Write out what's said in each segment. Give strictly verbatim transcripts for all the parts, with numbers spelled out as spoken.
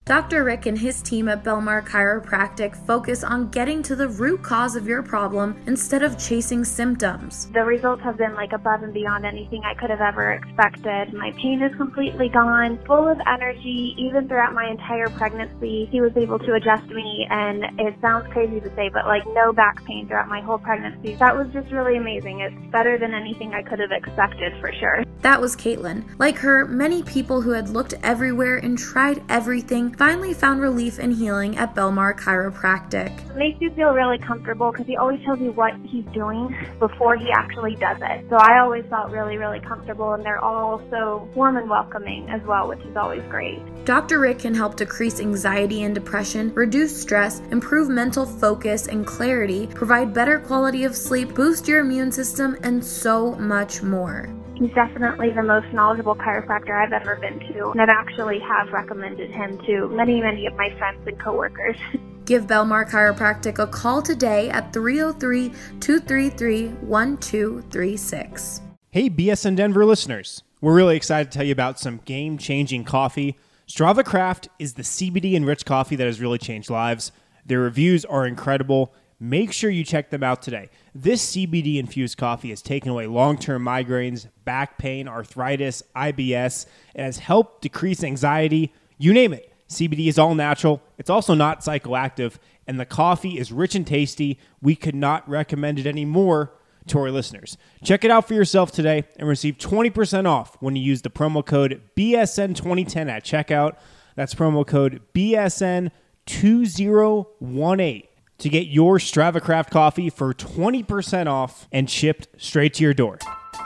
Doctor Rick and his team at Belmar Chiropractic focus on getting to the root cause of your problem instead of chasing symptoms. The results have been like above and beyond anything I could have ever expected. My pain is completely gone, full of energy. Even throughout my entire pregnancy, he was able to adjust me, and it sounds crazy to say, but like no back pain throughout my whole pregnancy. That was just really amazing. It's better than anything I could have expected for sure. That was Caitlin. Like her, many people who had looked everywhere and tried everything finally found relief and healing at Belmar Chiropractic. It makes you feel really comfortable because he always tells you what he's doing before he actually does it. So I always felt really, really comfortable, and they're all so warm and welcoming as well, which is always great. Doctor Rick can help decrease anxiety and depression, reduce stress, improve mental focus and clarity, provide better quality of sleep, boost your immune system, and so much more. He's definitely the most knowledgeable chiropractor I've ever been to, and I've actually have recommended him to many, many of my friends and coworkers. Give Belmar Chiropractic a call today at three oh three, two three three, one two three six. Hey B S N Denver listeners, we're really excited to tell you about some game-changing coffee. Strava Craft is the C B D-enriched coffee that has really changed lives. Their reviews are incredible. Make sure you check them out today. This C B D-infused coffee has taken away long-term migraines, back pain, arthritis, I B S. It has helped decrease anxiety. You name it. C B D is all natural. It's also not psychoactive, and the coffee is rich and tasty. We could not recommend it any more to our listeners. Check it out for yourself today and receive twenty percent off when you use the promo code B S N twenty ten at checkout. That's promo code B S N two zero one eight. to get your Strava Craft coffee for twenty percent off and shipped straight to your door.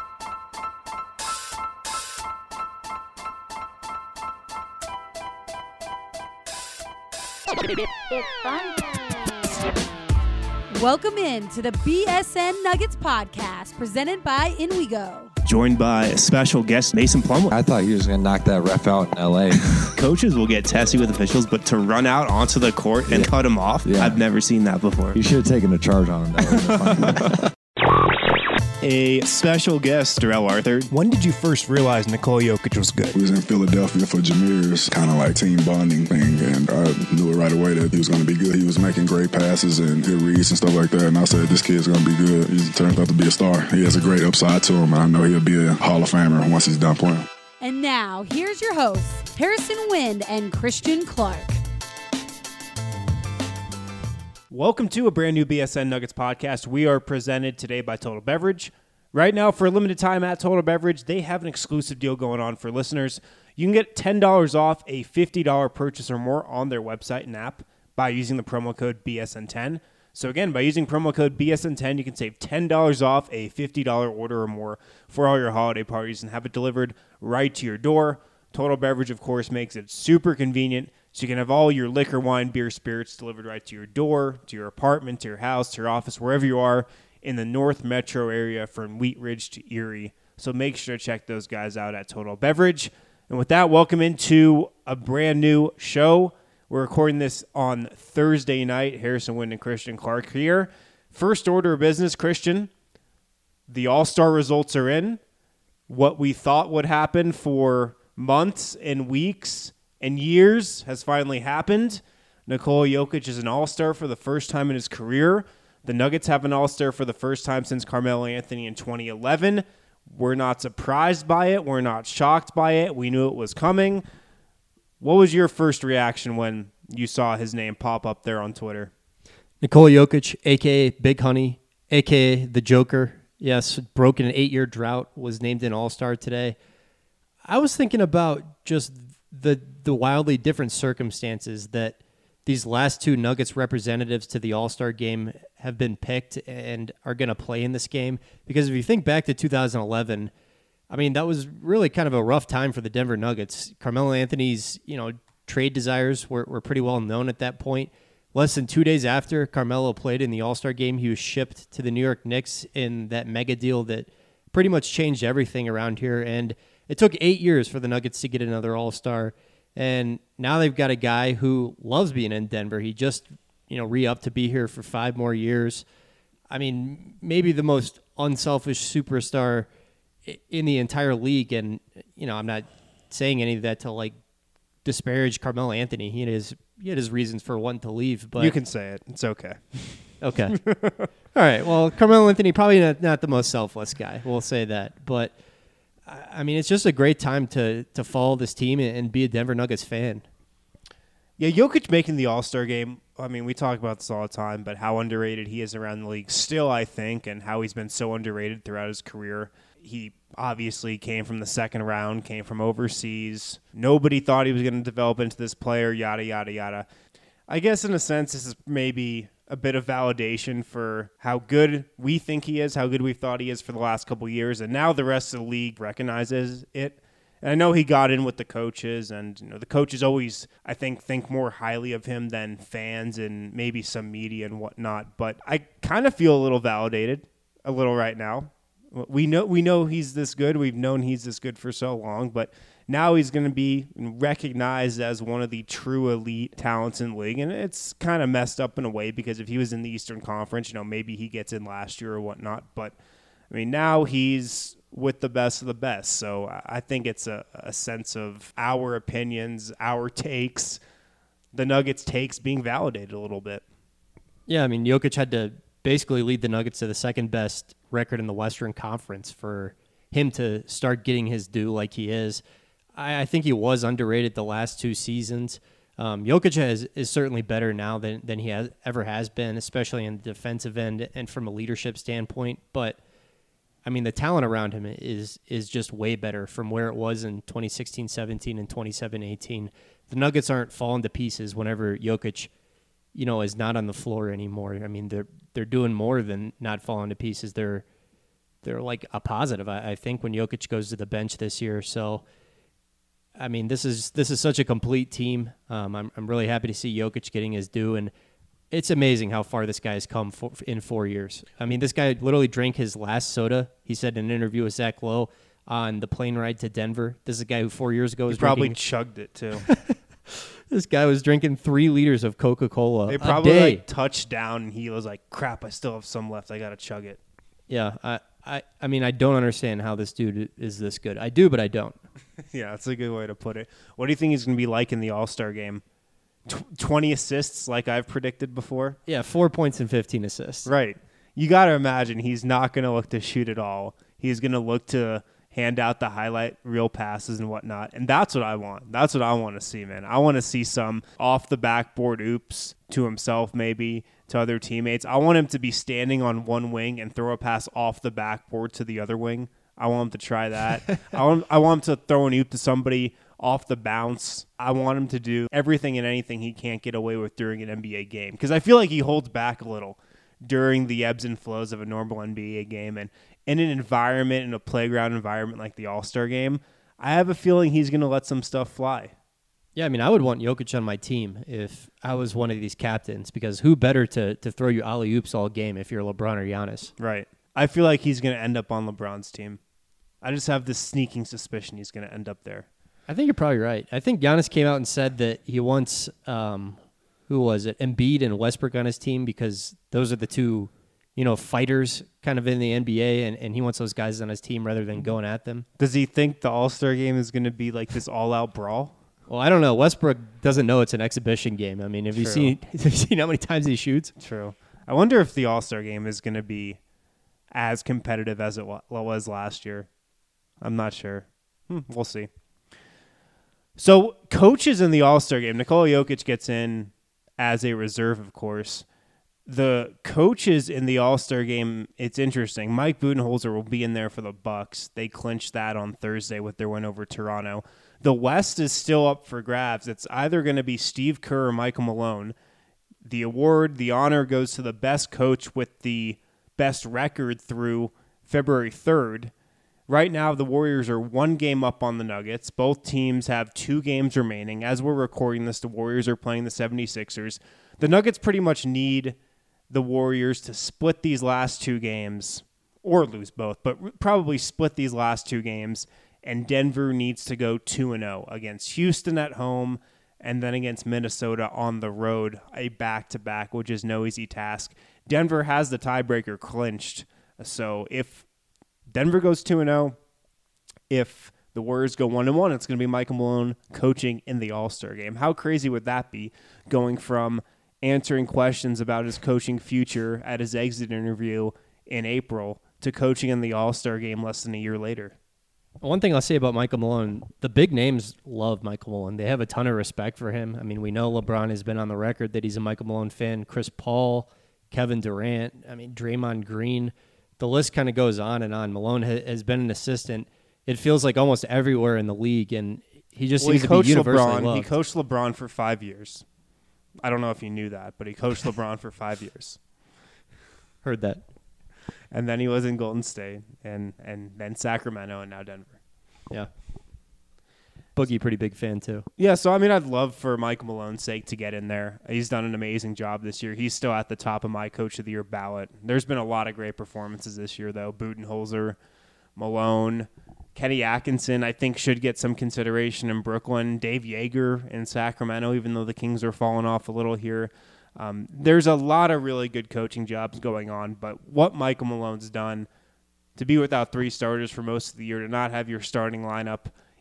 It's fun. Welcome in to the B S N Nuggets podcast presented by InWeGo. Joined by a special guest, Mason Plumlee. I thought he was going to knock that ref out in L A. Coaches will get testy with officials, but to run out onto the court and yeah. cut him off, yeah. I've never seen that before. You should have taken a charge on him. That a special guest, Darrell Arthur. When did you first realize Nikola Jokic was good? We was in Philadelphia for Jameer's kind of like team bonding thing, and I knew it right away that he was going to be good. He was making great passes and good reads and stuff like that, and I said, this kid's going to be good. He turns out to be a star. He has a great upside to him, and I know he'll be a Hall of Famer once he's done playing. And now, here's your hosts, Harrison Wind and Christian Clark. Welcome to a brand new B S N Nuggets podcast. We are presented today by Total Beverage. Right now, for a limited time at Total Beverage, they have an exclusive deal going on for listeners. You can get ten dollars off a fifty dollars purchase or more on their website and app by using the promo code B S N ten. So again, by using promo code B S N ten, you can save ten dollars off a fifty dollars order or more for all your holiday parties and have it delivered right to your door. Total Beverage, of course, makes it super convenient. So you can have all your liquor, wine, beer, spirits delivered right to your door, to your apartment, to your house, to your office, wherever you are in the North Metro area from Wheat Ridge to Erie. So make sure to check those guys out at Total Beverage. And with that, welcome into a brand new show. We're recording this on Thursday night. Harrison Wind and Christian Clark here. First order of business, Christian. The All-Star results are in. What we thought would happen for months and weeks and years has finally happened. Nikola Jokic is an all-star for the first time in his career. The Nuggets have an all-star for the first time since Carmelo Anthony in twenty eleven. We're not surprised by it. We're not shocked by it. We knew it was coming. What was your first reaction when you saw his name pop up there on Twitter? Nikola Jokic, a k a. Big Honey, a k a the Joker. Yes, broken an eight-year drought, was named an all-star today. I was thinking about just the the wildly different circumstances that these last two Nuggets representatives to the All-Star game have been picked and are going to play in this game. Because if you think back to two thousand eleven, I mean, that was really kind of a rough time for the Denver Nuggets. Carmelo Anthony's, you know, trade desires were, were pretty well known at that point. Less than two days after Carmelo played in the All-Star game, he was shipped to the New York Knicks in that mega deal that pretty much changed everything around here. And it took eight years for the Nuggets to get another All-Star. And now they've got a guy who loves being in Denver. He just, you know, re-upped to be here for five more years. I mean, maybe the most unselfish superstar in the entire league. And, you know, I'm not saying any of that to, like, disparage Carmelo Anthony. He had his he had his reasons for wanting to leave, but You can say it. It's okay. okay. All right. Well, Carmelo Anthony probably not, not the most selfless guy. We'll say that, but I I mean, it's just a great time to to follow this team and, and be a Denver Nuggets fan. Yeah, Jokic making the All-Star game, I mean, we talk about this all the time, but how underrated he is around the league still, I think, and how he's been so underrated throughout his career. He obviously came from the second round, came from overseas. Nobody thought he was going to develop into this player, yada, yada, yada. I guess in a sense, this is maybe a bit of validation for how good we think he is, how good we thought he is for the last couple of years, and now the rest of the league recognizes it. And I know he got in with the coaches, and you know the coaches always, I think, think more highly of him than fans and maybe some media and whatnot. But I kind of feel a little validated, a little right now. We know we know he's this good. We've known he's this good for so long, but now he's going to be recognized as one of the true elite talents in the league. And it's kind of messed up in a way because if he was in the Eastern Conference, you know, maybe he gets in last year or whatnot. But I mean, now he's with the best of the best. So I think it's a, a sense of our opinions, our takes, the Nuggets' takes being validated a little bit. Yeah, I mean, Jokic had to basically lead the Nuggets to the second best record in the Western Conference for him to start getting his due like he is. I, I think he was underrated the last two seasons. Um, Jokic has, is certainly better now than, than he has, ever has been, especially in the defensive end and from a leadership standpoint. But I mean, the talent around him is is just way better from where it was in twenty sixteen seventeen and twenty seventeen eighteen. The Nuggets aren't falling to pieces whenever Jokic, you know, is not on the floor anymore. I mean, they're they're doing more than not falling to pieces. They're they're like a positive, I, I think, when Jokic goes to the bench this year. So, I mean, this is this is such a complete team. Um, I'm I'm really happy to see Jokic getting his due, and it's amazing how far this guy has come for, in four years. I mean, this guy literally drank his last soda. He said in an interview with Zach Lowe on the plane ride to Denver. This is a guy who four years ago was he probably drinking, chugged it too. This guy was drinking three liters of Coca-Cola They probably a day. like touched down, and he was like, "Crap, I still have some left. I gotta chug it." Yeah, I, I, I mean, I don't understand how this dude is this good. I do, but I don't. Yeah, that's a good way to put it. What do you think he's going to be like in the All-Star game? Tw- twenty assists, like I've predicted before? Yeah, four points and fifteen assists. Right. You got to imagine he's not going to look to shoot at all. He's going to look to hand out the highlight reel passes and whatnot. And that's what I want. That's what I want to see, man. I want to see some off the backboard oops to himself, maybe to other teammates. I want him to be standing on one wing and throw a pass off the backboard to the other wing. I want him to try that. I want I want him to throw an oop to somebody off the bounce. I want him to do everything and anything he can't get away with during an N B A game, because I feel like he holds back a little during the ebbs and flows of a normal N B A game. And in an environment, in a playground environment like the All-Star game, I have a feeling he's going to let some stuff fly. Yeah, I mean, I would want Jokic on my team if I was one of these captains, because who better to, to throw you alley-oops all game if you're LeBron or Giannis? Right. I feel like he's going to end up on LeBron's team. I just have this sneaking suspicion he's going to end up there. I think you're probably right. I think Giannis came out and said that he wants, um, who was it, Embiid and Westbrook on his team, because those are the two, you know, fighters kind of in the N B A, and, and he wants those guys on his team rather than going at them. Does he think the All-Star game is going to be like this all-out brawl? Well, I don't know. Westbrook doesn't know it's an exhibition game. I mean, have you True. seen have you seen how many times he shoots? True. I wonder if the All-Star game is going to be as competitive as it wa- was last year. I'm not sure. Hmm, we'll see. So, coaches in the All-Star game. Nikola Jokic gets in as a reserve, of course. The coaches in the All-Star game, it's interesting. Mike Budenholzer will be in there for the Bucks. They clinched that on Thursday with their win over Toronto. The West is still up for grabs. It's either going to be Steve Kerr or Michael Malone. The award, the honor, goes to the best coach with the best record through February third. Right now, the Warriors are one game up on the Nuggets. Both teams have two games remaining. As we're recording this, the Warriors are playing the seventy-sixers. The Nuggets pretty much need the Warriors to split these last two games, or lose both, but probably split these last two games, and Denver needs to go two and oh against Houston at home and then against Minnesota on the road, a back-to-back, which is no easy task. Denver has the tiebreaker clinched, so if Denver goes two and oh, if the Warriors go one and one, it's going to be Michael Malone coaching in the All-Star game. How crazy would that be, going from answering questions about his coaching future at his exit interview in April to coaching in the All-Star game less than a year later? One thing I'll say about Michael Malone, the big names love Michael Malone. They have a ton of respect for him. I mean, we know LeBron has been on the record that he's a Michael Malone fan. Chris Paul, Kevin Durant, I mean, Draymond Green. The list kind of goes on and on. Malone ha- has been an assistant, it feels like, almost everywhere in the league, and he just well, seems he to be universally LeBron. loved. He coached LeBron for five years. I don't know if you knew that, but he coached LeBron for five years. Heard that. And then he was in Golden State, and, and then Sacramento, and now Denver. Yeah. Boogie, pretty big fan, too. Yeah, so, I mean, I'd love for Mike Malone's sake to get in there. He's done an amazing job this year. He's still at the top of my Coach of the Year ballot. There's been a lot of great performances this year, though. Budenholzer, Malone, Kenny Atkinson, I think, should get some consideration in Brooklyn. Dave Yeager in Sacramento, even though the Kings are falling off a little here. Um, there's a lot of really good coaching jobs going on, but what Michael Malone's done to be without three starters for most of the year, to not have your starting lineup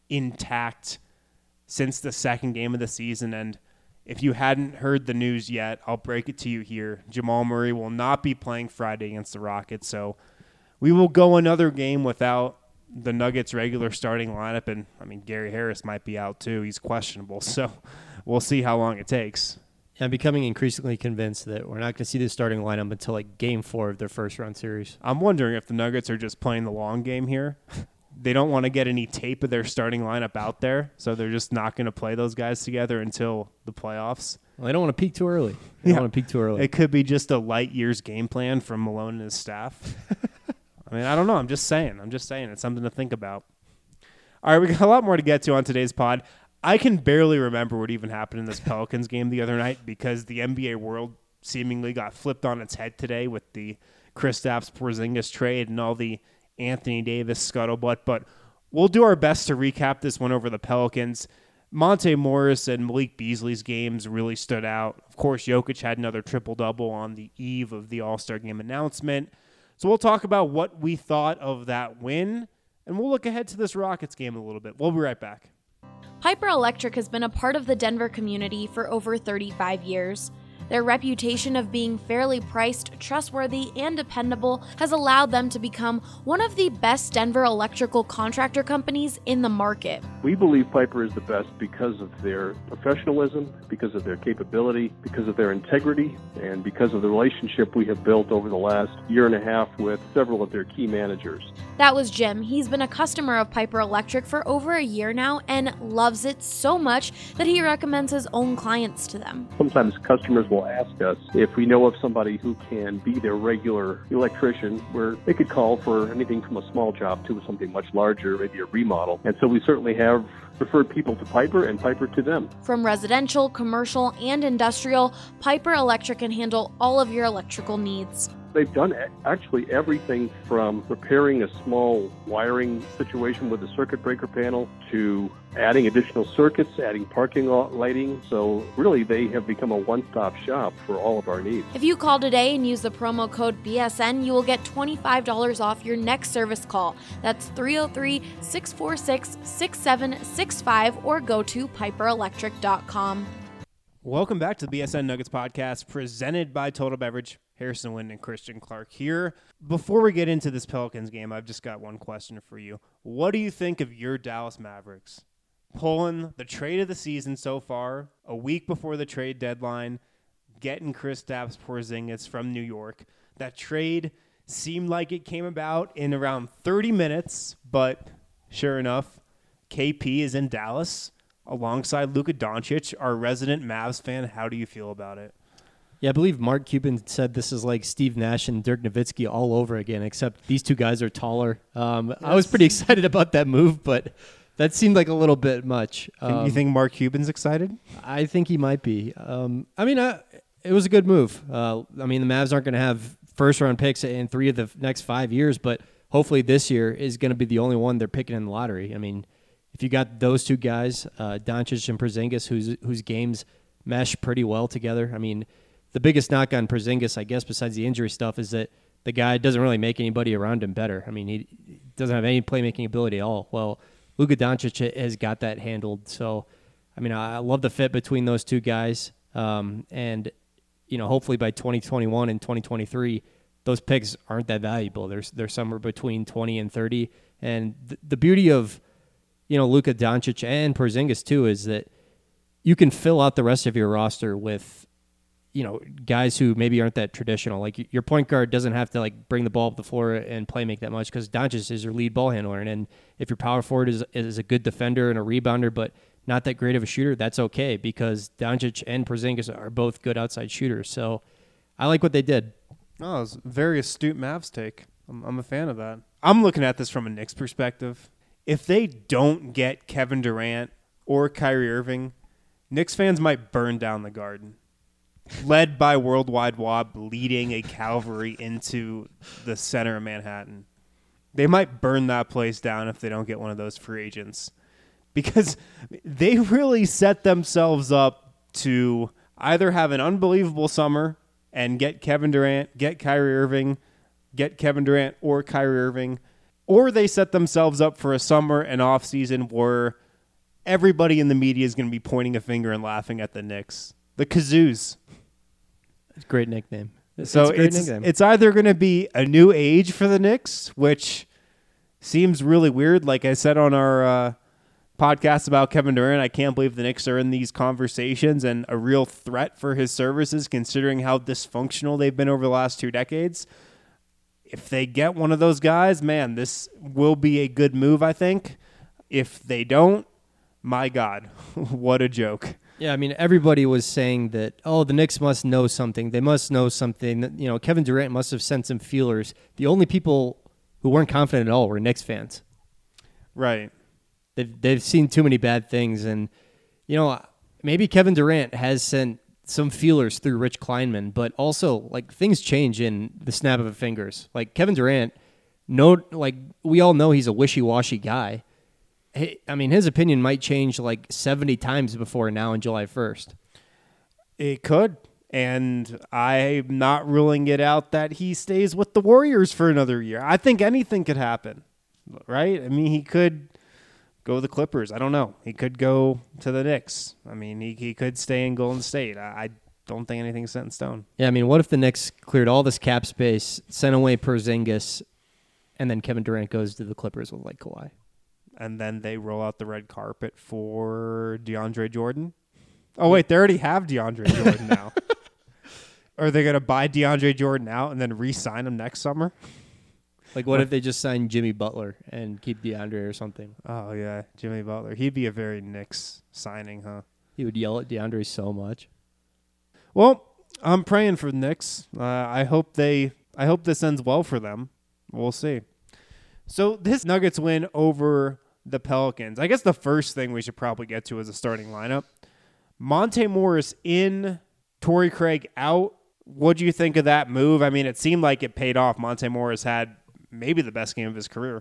intact since the second game of the season, and if you hadn't heard the news yet, I'll break it to you here. Jamal Murray will not be playing Friday against the Rockets, so we will go another game without the Nuggets' regular starting lineup, and, I mean, Gary Harris might be out too. He's questionable, so we'll see how long it takes. I'm becoming increasingly convinced that we're not going to see the starting lineup until like game four of their first round series. I'm wondering if the Nuggets are just playing the long game here. They don't want to get any tape of their starting lineup out there, so they're just not going to play those guys together until the playoffs. Well, they don't want to peak too early. They Yeah. don't want to peak too early. It could be just a light years game plan from Malone and his staff. I mean, I don't know. I'm just saying. I'm just saying. It's something to think about. All right, we got a lot more to get to on today's pod. I can barely remember what even happened in this Pelicans game the other night because the N B A world seemingly got flipped on its head today with the Kristaps Porzingis trade and all the Anthony Davis scuttlebutt. But we'll do our best to recap this one over the Pelicans. Monte Morris and Malik Beasley's games really stood out. Of course, Jokic had another triple-double on the eve of the All-Star game announcement. So we'll talk about what we thought of that win, and we'll look ahead to this Rockets game a little bit. We'll be right back. Piper Electric has been a part of the Denver community for over thirty-five years. Their reputation of being fairly priced, trustworthy, and dependable has allowed them to become one of the best Denver electrical contractor companies in the market. We believe Piper is the best because of their professionalism, because of their capability, because of their integrity, and because of the relationship we have built over the last year and a half with several of their key managers. That was Jim. He's been a customer of Piper Electric for over a year now and loves it so much that he recommends his own clients to them. Sometimes customers will ask us if we know of somebody who can be their regular electrician, where they could call for anything from a small job to something much larger, maybe a remodel. And so we certainly have referred people to Piper and Piper to them. From residential, commercial, and industrial, Piper Electric can handle all of your electrical needs. They've done actually everything from repairing a small wiring situation with a circuit breaker panel to adding additional circuits, adding parking lot lighting. So really, they have become a one-stop shop for all of our needs. If you call today and use the promo code B S N, you will get twenty-five dollars off your next service call. That's three oh three, six four six, six seven six five or go to piper electric dot com. Welcome back to the B S N Nuggets podcast presented by Total Beverage. Harrison Wind and Christian Clark here. Before we get into this Pelicans game, I've just got one question for you. What do you think of your Dallas Mavericks pulling the trade of the season so far, a week before the trade deadline, getting Kristaps Porzingis from New York? That trade seemed like it came about in around thirty minutes, but sure enough, K P is in Dallas alongside Luka Doncic, our resident Mavs fan. How do you feel about it? Yeah, I believe Mark Cuban said this is like Steve Nash and Dirk Nowitzki all over again, except these two guys are taller. Um, yes. I was pretty excited about that move, but that seemed like a little bit much. Um, you think Mark Cuban's excited? I think he might be. Um, I mean, I, it was a good move. Uh, I mean, the Mavs aren't going to have first-round picks in three of the next five years, but hopefully this year is going to be the only one they're picking in the lottery. I mean, if you got those two guys, uh, Doncic and Porzingis, whose whose games mesh pretty well together, I mean, the biggest knock on Porzingis, I guess, besides the injury stuff, is that the guy doesn't really make anybody around him better. I mean, he doesn't have any playmaking ability at all. Well, Luka Doncic has got that handled. So, I mean, I love the fit between those two guys. Um, and, you know, hopefully by twenty twenty-one and twenty twenty-three, those picks aren't that valuable. There's they're somewhere between twenty and thirty. And th- the beauty of, you know, Luka Doncic and Porzingis too is that you can fill out the rest of your roster with, you know, guys who maybe aren't that traditional. Like your point guard doesn't have to like bring the ball up the floor and play make that much because Doncic is your lead ball handler. And, and if your power forward is is a good defender and a rebounder, but not that great of a shooter, that's okay because Doncic and Porzingis are both good outside shooters. So I like what they did. Oh, it's a very astute Mavs take. I'm, I'm a fan of that. I'm looking at this from a Knicks perspective. If they don't get Kevin Durant or Kyrie Irving, Knicks fans might burn down the Garden. Led by Worldwide Wob leading a cavalry into the center of Manhattan. They might burn that place down if they don't get one of those free agents. Because they really set themselves up to either have an unbelievable summer and get Kevin Durant, get Kyrie Irving, get Kevin Durant or Kyrie Irving, or they set themselves up for a summer and off season where everybody in the media is going to be pointing a finger and laughing at the Knicks. The Kazoos. It's a great nickname. It's, so it's, a great it's, nickname. it's either going to be a new age for the Knicks, which seems really weird. Like I said on our uh, podcast about Kevin Durant, I can't believe the Knicks are in these conversations and a real threat for his services considering how dysfunctional they've been over the last two decades. If they get one of those guys, man, this will be a good move, I think. If they don't, my God, what a joke. Yeah, I mean, everybody was saying that, oh, the Knicks must know something. They must know something. You know, Kevin Durant must have sent some feelers. The only people who weren't confident at all were Knicks fans. Right. They've, they've seen too many bad things. And, you know, maybe Kevin Durant has sent some feelers through Rich Kleinman, but also, like, things change in the snap of a fingers. Like, Kevin Durant, no, like, we all know he's a wishy-washy guy. I mean, his opinion might change like seventy times before now on July first. It could. And I'm not ruling it out that he stays with the Warriors for another year. I think anything could happen, right? I mean, he could go to the Clippers. I don't know. He could go to the Knicks. I mean, he, he could stay in Golden State. I, I don't think anything's set in stone. Yeah, I mean, what if the Knicks cleared all this cap space, sent away Porzingis, and then Kevin Durant goes to the Clippers with like Kawhi? And then they roll out the red carpet for DeAndre Jordan. Oh, wait, they already have DeAndre Jordan now. Are they going to buy DeAndre Jordan out and then re-sign him next summer? Like, what if they just sign Jimmy Butler and keep DeAndre or something? Oh, yeah, Jimmy Butler. He'd be a very Knicks signing, huh? He would yell at DeAndre so much. Well, I'm praying for the Knicks. Uh, I hope they. I hope this ends well for them. We'll see. So this Nuggets win over the Pelicans. I guess the first thing we should probably get to is a starting lineup. Monte Morris in, Torrey Craig out. What do you think of that move? I mean, it seemed like it paid off. Monte Morris had maybe the best game of his career.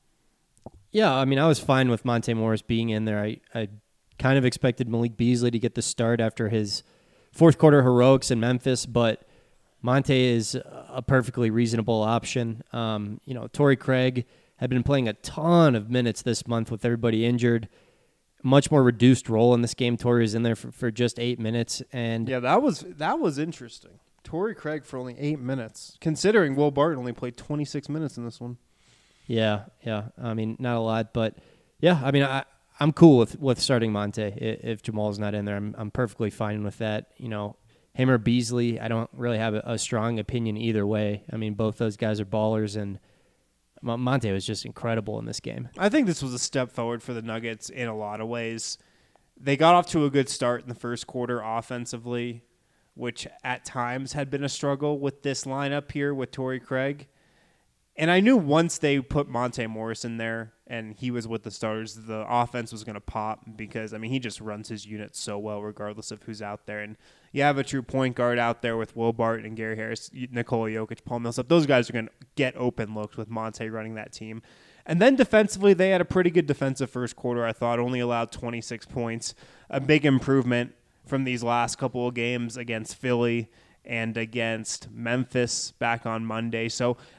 Yeah, I mean, I was fine with Monte Morris being in there. I, I kind of expected Malik Beasley to get the start after his fourth quarter heroics in Memphis, but Monte is a perfectly reasonable option. Um, you know, Torrey Craig had been playing a ton of minutes this month with everybody injured. Much more reduced role in this game. Torrey is in there for, for just eight minutes. And yeah, that was that was interesting. Torrey Craig for only eight minutes, considering Will Barton only played twenty-six minutes in this one. Yeah, yeah. I mean, not a lot, but yeah, I mean, I, I'm cool with, with starting Monte if Jamal's not in there. I'm I'm perfectly fine with that. You know, him or Beasley, I don't really have a, a strong opinion either way. I mean, both those guys are ballers, and Monte was just incredible in this game. I think this was a step forward for the Nuggets in a lot of ways. They got off to a good start in the first quarter offensively, which at times had been a struggle with this lineup here with Torrey Craig. And I knew once they put Monte Morris in there and he was with the starters, the offense was going to pop because, I mean, he just runs his unit so well regardless of who's out there. And you have a true point guard out there with Will Barton and Gary Harris, Nikola Jokic, Paul Millsap. Those guys are going to get open looks with Monte running that team. And then defensively, they had a pretty good defensive first quarter, I thought, only allowed twenty-six points, a big improvement from these last couple of games against Philly and against Memphis back on Monday. So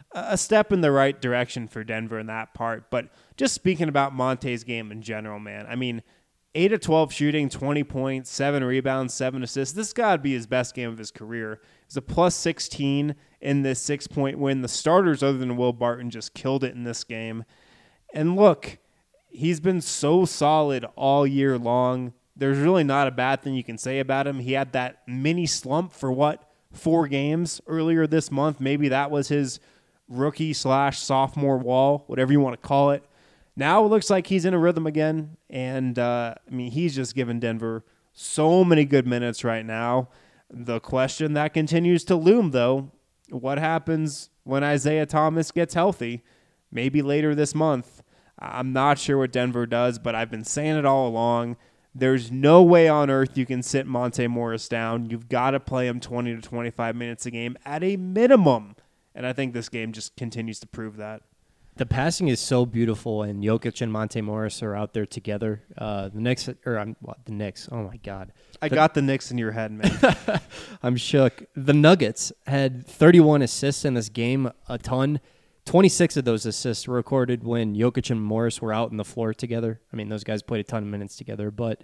a step in the right direction for Denver in that part. But just speaking about Monte's game in general, man, I mean, eight of twelve shooting, twenty points, seven rebounds, seven assists. This got to be his best game of his career. It was a plus sixteen in this six-point win. The starters, other than Will Barton, just killed it in this game. And look, he's been so solid all year long. There's really not a bad thing you can say about him. He had that mini slump for, what, four games earlier this month. Maybe that was his rookie slash sophomore wall, whatever you want to call it. Now it looks like he's in a rhythm again, and uh, I mean, he's just given Denver so many good minutes right now. The question that continues to loom, though, what happens when Isaiah Thomas gets healthy? Maybe later this month. I'm not sure what Denver does, but I've been saying it all along. There's no way on earth you can sit Monte Morris down. You've got to play him twenty to twenty-five minutes a game at a minimum, and I think this game just continues to prove that. The passing is so beautiful, and Jokic and Monte Morris are out there together. Uh, the Knicks, or um, what, the Knicks, oh my God. I the, got the Knicks in your head, man. I'm shook. The Nuggets had thirty-one assists in this game, a ton. twenty-six of those assists were recorded when Jokic and Morris were out on the floor together. I mean, those guys played a ton of minutes together, but,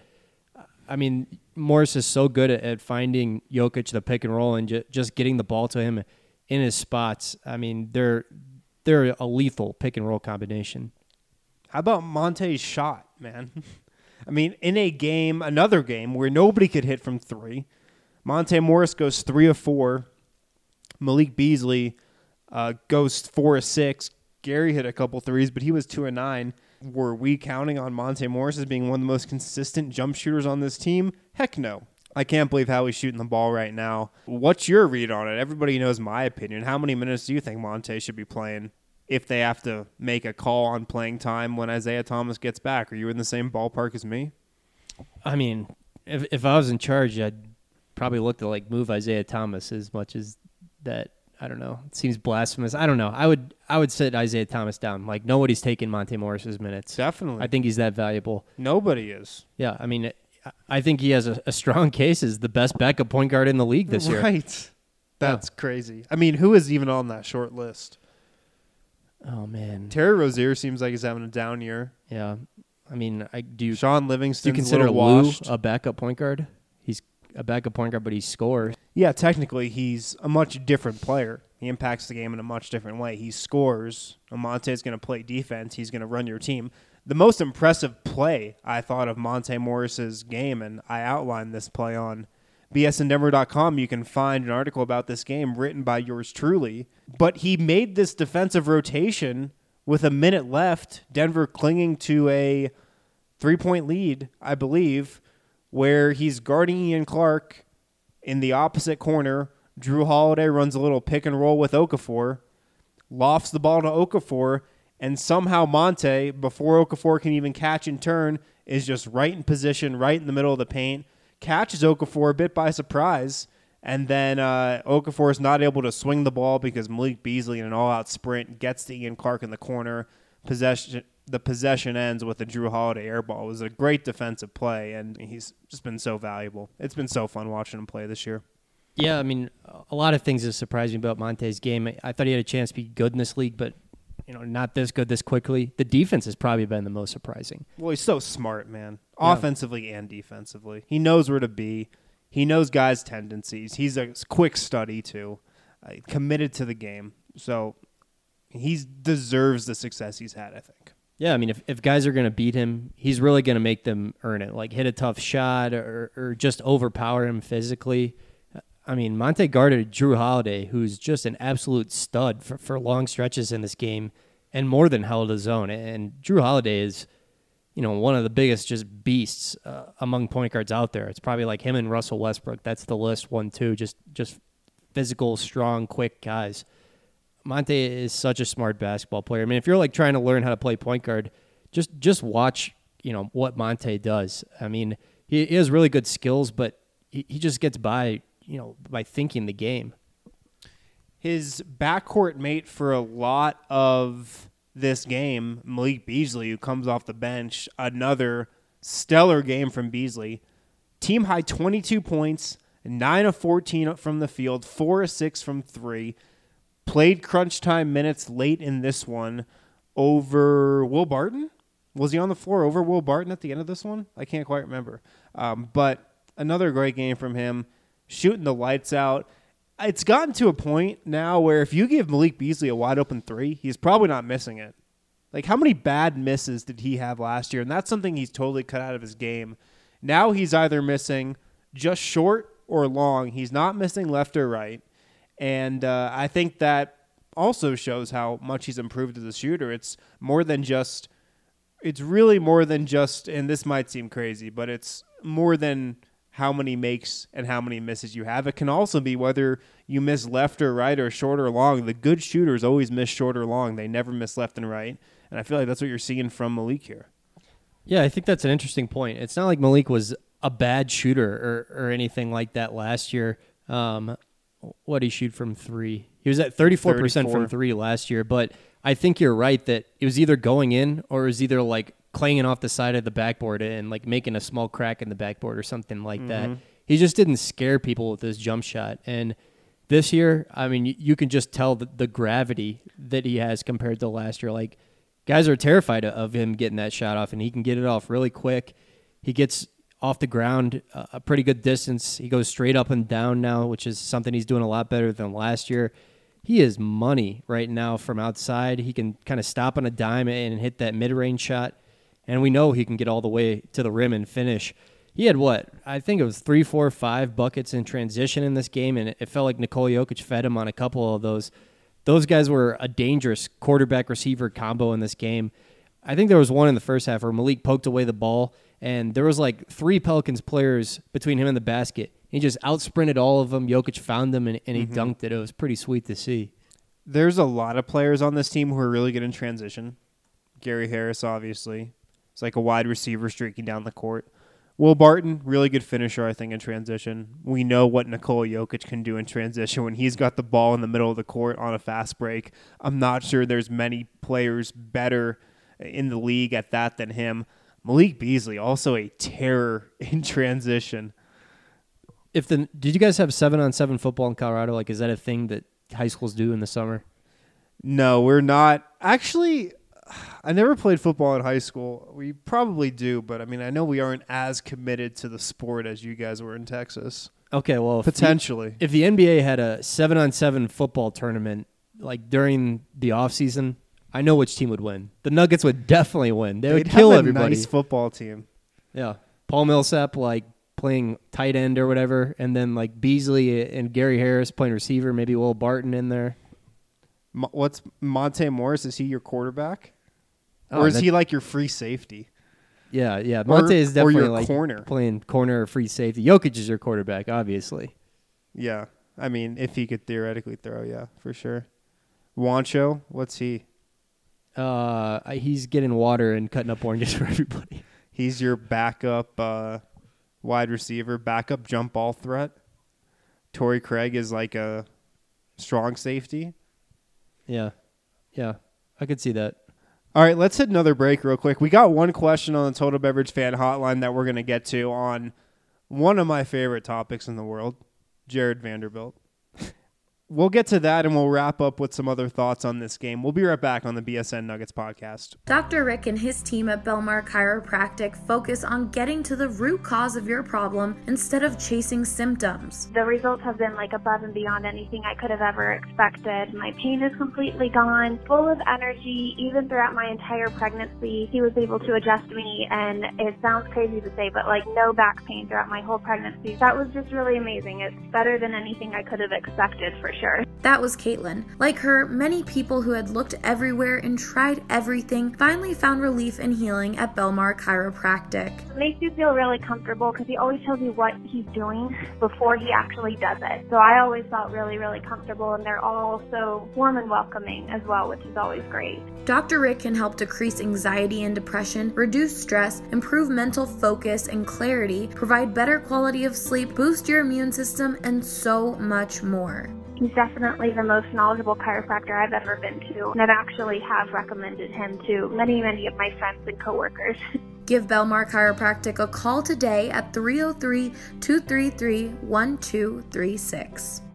I mean, Morris is so good at, at finding Jokic the pick and roll and ju- just getting the ball to him in his spots. I mean, they're... They're a lethal pick and roll combination. How about Monte's shot, man? I mean, in a game, another game where nobody could hit from three, Monte Morris goes three of four. Malik Beasley uh, goes four of six. Gary hit a couple threes, but he was two of nine. Were we counting on Monte Morris as being one of the most consistent jump shooters on this team? Heck no. I can't believe how he's shooting the ball right now. What's your read on it? Everybody knows my opinion. How many minutes do you think Monte should be playing if they have to make a call on playing time when Isaiah Thomas gets back? Are you in the same ballpark as me? I mean, if if I was in charge, I'd probably look to like move Isaiah Thomas as much as that. I don't know. It seems blasphemous. I don't know. I would I would sit Isaiah Thomas down. Like, nobody's taking Monte Morris's minutes. Definitely. I think he's that valuable. Nobody is. Yeah, I mean, I think he has a, a strong case as the best backup point guard in the league this year. Right. That's yeah. crazy. I mean, who is even on that short list? Oh, man. Terry Rozier seems like he's having a down year. Yeah. I mean, I do you, Sean Livingston. Do you consider Lou a backup point guard? He's a backup point guard, but he scores. Yeah, technically, he's a much different player. He impacts the game in a much different way. He scores. Monte's going to play defense. He's going to run your team. The most impressive play I thought of Monte Morris's game, and I outlined this play on B S N Denver dot com. You can find an article about this game written by yours truly. But he made this defensive rotation with a minute left, Denver clinging to a three-point lead, I believe, where he's guarding Ian Clark in the opposite corner. Drew Holiday runs a little pick and roll with Okafor, lofts the ball to Okafor, and somehow Monte, before Okafor can even catch and turn, is just right in position, right in the middle of the paint, catches Okafor a bit by surprise, and then uh, Okafor is not able to swing the ball because Malik Beasley in an all-out sprint gets to Ian Clark in the corner. Possession, the possession ends with a Drew Holiday air ball. It was a great defensive play, and he's just been so valuable. It's been so fun watching him play this year. Yeah, I mean, a lot of things that surprised me about Monte's game. I thought he had a chance to be good in this league, but you know, not this good this quickly. The defense has probably been the most surprising. Well, he's so smart, man. Yeah. Offensively and defensively. He knows where to be. He knows guys' tendencies. He's a quick study, too. Uh, committed to the game. So he deserves the success he's had, I think. Yeah, I mean, if, if guys are going to beat him, he's really going to make them earn it. Like hit a tough shot or, or just overpower him physically. I mean, Monte guarded Drew Holiday, who's just an absolute stud for, for long stretches in this game and more than held his own. And Drew Holiday is, you know, one of the biggest just beasts uh, among point guards out there. It's probably like him and Russell Westbrook. That's the list, one, two, just, just physical, strong, quick guys. Monte is such a smart basketball player. I mean, if you're like trying to learn how to play point guard, just just watch, you know, what Monte does. I mean, he, he has really good skills, but he, he just gets by, you know, by thinking the game. His backcourt mate for a lot of this game, Malik Beasley, who comes off the bench, another stellar game from Beasley. Team high twenty-two points, nine of fourteen from the field, four of six from three. played crunch time minutes late in this one over Will Barton. Was he on the floor over Will Barton at the end of this one? I can't quite remember. Um, but another great game from him, shooting the lights out. It's gotten to a point now where if you give Malik Beasley a wide open three, he's probably not missing it. Like, how many bad misses did he have last year? And that's something he's totally cut out of his game. Now he's either missing just short or long. He's not missing left or right. And uh, I think that also shows how much he's improved as a shooter. It's more than just, it's really more than just, and this might seem crazy, but it's more than how many makes and how many misses you have. It can also be whether you miss left or right or short or long. The good shooters always miss short or long. They never miss left and right. And I feel like that's what you're seeing from Malik here. Yeah, I think that's an interesting point. It's not like Malik was a bad shooter or, or anything like that last year. Um, what did he shoot from three? He was at thirty-four percent thirty-four from three last year, but I think you're right that it was either going in or it was either like clanging off the side of the backboard and like making a small crack in the backboard or something like mm-hmm. that. He just didn't scare people with his jump shot. And this year, I mean, you, you can just tell the, the gravity that he has compared to last year. Like, guys are terrified of him getting that shot off, and he can get it off really quick. He gets off the ground a pretty good distance. He goes straight up and down now, which is something he's doing a lot better than last year. He is money right now from outside. He can kind of stop on a dime and hit that mid-range shot, and we know he can get all the way to the rim and finish. He had what? I think it was three, four, five buckets in transition in this game, and it felt like Nikola Jokic fed him on a couple of those. Those guys were a dangerous quarterback-receiver combo in this game. I think there was one in the first half where Malik poked away the ball, and there was like three Pelicans players between him and the basket. He just out-sprinted all of them. Jokic found them, and, and he mm-hmm. dunked it. It was pretty sweet to see. There's a lot of players on this team who are really good in transition. Gary Harris, obviously. It's like a wide receiver streaking down the court. Will Barton, really good finisher, I think, in transition. We know what Nikola Jokic can do in transition when he's got the ball in the middle of the court on a fast break. I'm not sure there's many players better in the league at that than him. Malik Beasley, also a terror in transition. If the did you guys have seven on seven football in Colorado? Like, is that a thing that high schools do in the summer? No, we're not. Actually, I never played football in high school. We probably do, but I mean, I know we aren't as committed to the sport as you guys were in Texas. Okay, well, if potentially. The, if the N B A had a seven on seven football tournament, like during the off season, I know which team would win. The Nuggets would definitely win. They They'd would kill have a everybody. Nice football team. Yeah, Paul Millsap like playing tight end or whatever, and then like Beasley and Gary Harris playing receiver. Maybe Will Barton in there. Mo- what's Monte Morris? Is he your quarterback, oh, or is he like your free safety? Yeah, yeah. Monte or, is definitely or your like corner. playing corner or free safety. Jokic is your quarterback, obviously. Yeah, I mean, if he could theoretically throw, yeah, for sure. Juancho, what's he? Uh, he's getting water and cutting up oranges for everybody. He's your backup uh, wide receiver, backup jump ball threat. Torrey Craig is like a strong safety. Yeah, yeah, I could see that. All right, let's hit another break real quick. We got one question on the Total Beverage Fan Hotline that we're going to get to on one of my favorite topics in the world, Jared Vanderbilt. We'll get to that, and we'll wrap up with some other thoughts on this game. We'll be right back on the B S N Nuggets podcast. Doctor Rick and his team at Belmar Chiropractic focus on getting to the root cause of your problem instead of chasing symptoms. The results have been like above and beyond anything I could have ever expected. My pain is completely gone, full of energy. Even throughout my entire pregnancy, he was able to adjust me, and it sounds crazy to say, but like no back pain throughout my whole pregnancy. That was just really amazing. It's better than anything I could have expected, for sure. That was Caitlin. Like her, many people who had looked everywhere and tried everything finally found relief and healing at Belmar Chiropractic. It makes you feel really comfortable because he always tells you what he's doing before he actually does it. So I always felt really, really comfortable, and they're all so warm and welcoming as well, which is always great. Doctor Rick can help decrease anxiety and depression, reduce stress, improve mental focus and clarity, provide better quality of sleep, boost your immune system, and so much more. He's definitely the most knowledgeable chiropractor I've ever been to, and I've actually have recommended him to many, many of my friends and coworkers. Give Belmar Chiropractic a call today at three oh three, two three three, one two three six.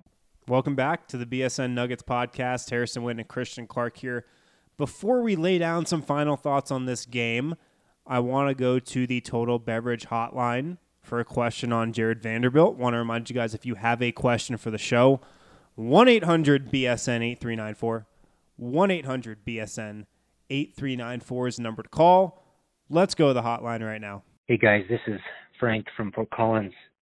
Welcome back to the B S N Nuggets podcast. Harrison Witt and Christian Clark here. Before we lay down some final thoughts on this game, I want to go to the Total Beverage Hotline for a question on Jared Vanderbilt. Want to remind you guys, if you have a question for the show, one eight hundred B S N eight three nine four. one eight hundred B S N eight three nine four is the number to call. Let's go to the hotline right now. Hey guys, this is Frank from Fort Collins.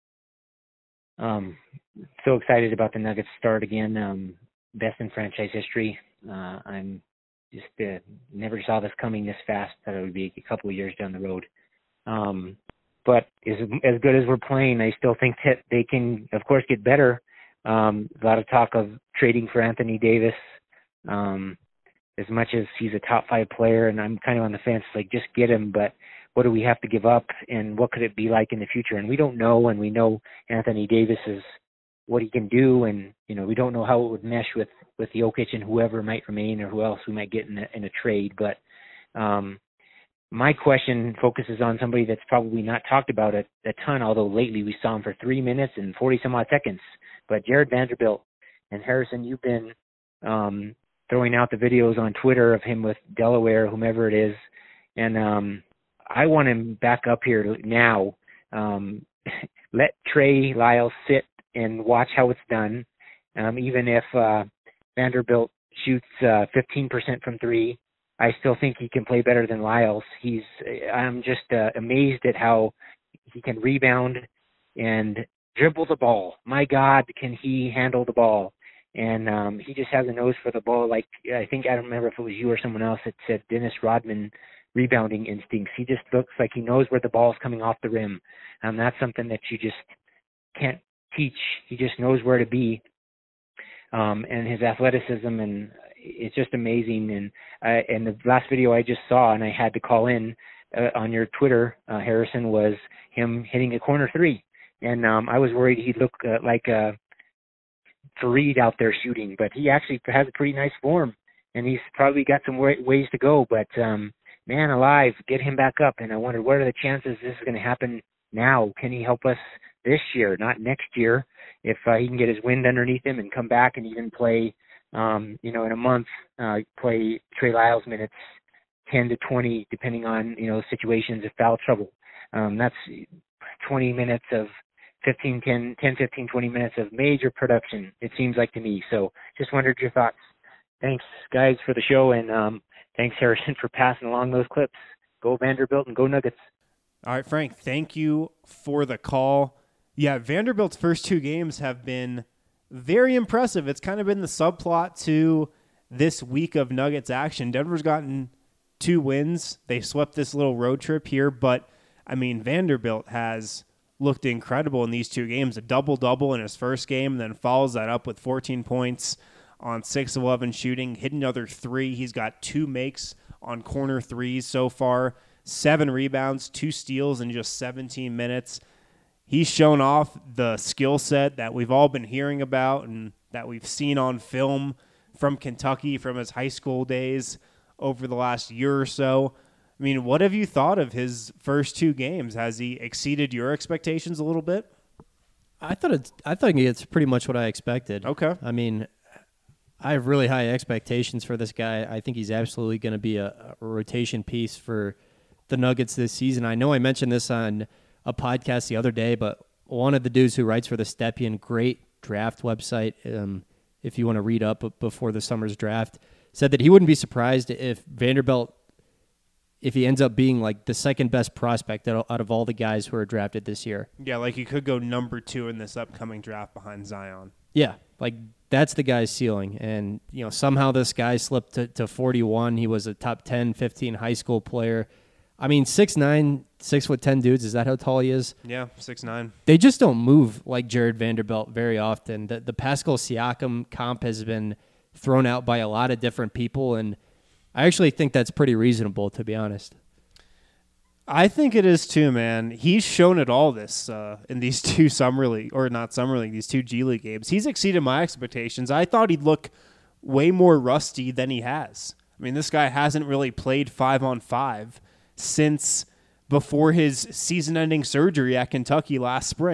Um, so excited about the Nuggets start again. Um, best in franchise history. Uh, I'm just uh, never saw this coming this fast. That it would be a couple of years down the road. Um, but as as good as we're playing, I still think that they can, of course, get better. Um, a lot of talk of trading for Anthony Davis. Um, as much as he's a top five player, and I'm kind of on the fence, like just get him. But what do we have to give up, and what could it be like in the future? And we don't know, and we know Anthony Davis is what he can do, and you know we don't know how it would mesh with with Jokic and whoever might remain or who else we might get in a, in a trade. But um, my question focuses on somebody that's probably not talked about a, a ton, although lately we saw him for three minutes and forty some odd seconds. But Jared Vanderbilt. And Harrison, you've been um, throwing out the videos on Twitter of him with Delaware, whomever it is, and um, I want him back up here now. Um, let Trey Lyles sit and watch how it's done. Um, even if uh, Vanderbilt shoots uh, fifteen percent from three, I still think he can play better than Lyles. He's, I'm just uh, amazed at how he can rebound and dribble the ball. My God, can he handle the ball? And um, he just has a nose for the ball. Like, I think, I don't remember if it was you or someone else that said Dennis Rodman rebounding instincts. He just looks like he knows where the ball's coming off the rim. And that's something that you just can't teach. He just knows where to be. Um, and his athleticism, and it's just amazing. And uh, and the last video I just saw, and I had to call in uh, on your Twitter, uh, Harrison, was him hitting a corner three. And um, I was worried he'd look uh, like uh, Fareed out there shooting, but he actually has a pretty nice form, and he's probably got some way- ways to go. But um, man alive, get him back up. And I wondered, what are the chances this is going to happen now? Can he help us this year, not next year, if uh, he can get his wind underneath him and come back and even play, um, you know, in a month, uh, play Trey Lyles minutes ten to twenty, depending on, you know, situations of foul trouble. Um, that's twenty minutes of fifteen, ten, ten, fifteen, twenty minutes of major production, it seems like to me. So just wondered your thoughts. Thanks, guys, for the show, and um, thanks, Harrison, for passing along those clips. Go Vanderbilt and go Nuggets. All right, Frank, thank you for the call. Yeah, Vanderbilt's first two games have been very impressive. It's kind of been the subplot to this week of Nuggets action. Denver's gotten two wins. They swept this little road trip here, but, I mean, Vanderbilt has looked incredible in these two games. A double-double in his first game, and then follows that up with fourteen points on six of eleven shooting, hit another three. He's got two makes on corner threes so far, seven rebounds, two steals in just seventeen minutes. He's shown off the skill set that we've all been hearing about and that we've seen on film from Kentucky from his high school days over the last year or so. I mean, what have you thought of his first two games? Has he exceeded your expectations a little bit? I thought it's, I think it's pretty much what I expected. Okay. I mean, I have really high expectations for this guy. I think he's absolutely going to be a, a rotation piece for the Nuggets this season. I know I mentioned this on a podcast the other day, but one of the dudes who writes for the Stepien, great draft website, um, if you want to read up before the summer's draft, said that he wouldn't be surprised if Vanderbilt, if he ends up being like the second best prospect out of all the guys who are drafted this year. Yeah, like he could go number two in this upcoming draft behind Zion. Yeah, like that's the guy's ceiling. And, you know, somehow this guy slipped to, to forty-one. He was a top ten, fifteen high school player. I mean, six nine, six foot ten dudes, is that how tall he is? Yeah, six nine. They just don't move like Jared Vanderbilt very often. The, the Pascal Siakam comp has been thrown out by a lot of different people, and I actually think that's pretty reasonable, to be honest. I think it is too, man. He's shown it all this uh, in these two summer league, or not summer league, these two G League games. He's exceeded my expectations. I thought he'd look way more rusty than he has. I mean, this guy hasn't really played five on five since before his season-ending surgery at Kentucky last spring.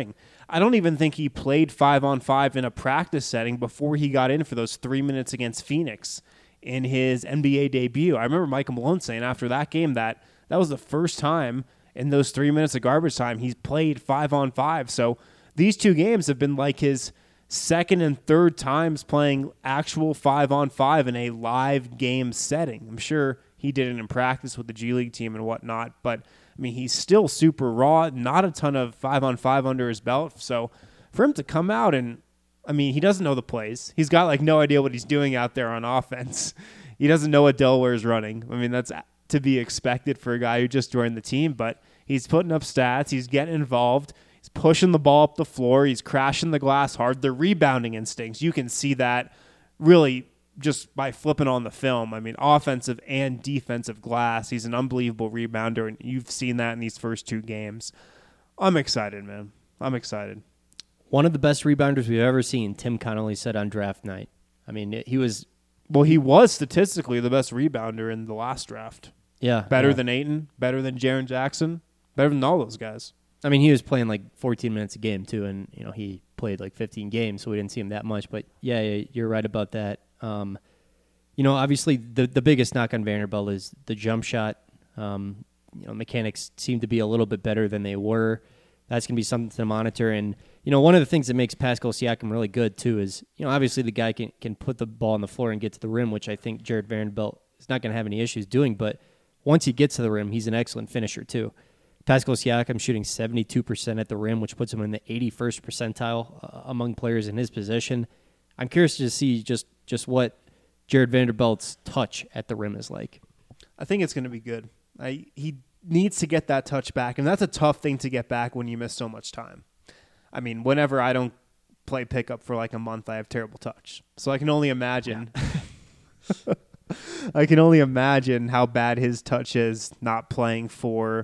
I don't even think he played five on five in a practice setting before he got in for those three minutes against Phoenix in his N B A debut. I remember Michael Malone saying after that game that that was the first time in those three minutes of garbage time he's played five on five. So these two games have been like his second and third times playing actual five on five in a live game setting. I'm sure he did it in practice with the G League team and whatnot, but I mean, he's still super raw, not a ton of five on five under his belt. So for him to come out and, I mean, he doesn't know the plays. He's got like no idea what he's doing out there on offense. He doesn't know what Delaware is running. I mean, that's to be expected for a guy who just joined the team, but he's putting up stats. He's getting involved. He's pushing the ball up the floor. He's crashing the glass hard. The rebounding instincts, you can see that really just by flipping on the film. I mean, offensive and defensive glass. He's an unbelievable rebounder, and you've seen that in these first two games. I'm excited, man. I'm excited. One of the best rebounders we've ever seen, Tim Connolly said on draft night. I mean, he was... Well, he was statistically the best rebounder in the last draft. Yeah. Better yeah. than Ayton, better than Jaren Jackson, better than all those guys. I mean, he was playing like fourteen minutes a game, too, and, you know, he played like fifteen games, so we didn't see him that much. But, yeah, you're right about that. Um, you know, obviously the the biggest knock on Vanderbilt is the jump shot. Um, you know, mechanics seem to be a little bit better than they were. That's going to be something to monitor. And, you know, one of the things that makes Pascal Siakam really good, too, is, you know, obviously the guy can, can put the ball on the floor and get to the rim, which I think Jared Vanderbilt is not going to have any issues doing. But once he gets to the rim, he's an excellent finisher, too. Pascal Siakam shooting seventy-two percent at the rim, which puts him in the eighty-first percentile uh, among players in his position. I'm curious to see just, just what Jared Vanderbilt's touch at the rim is like. I think it's going to be good. I, he needs to get that touch back, and that's a tough thing to get back when you miss so much time. I mean, whenever I don't play pickup for like a month, I have terrible touch. So I can only imagine. Yeah. I can only imagine how bad his touch is not playing for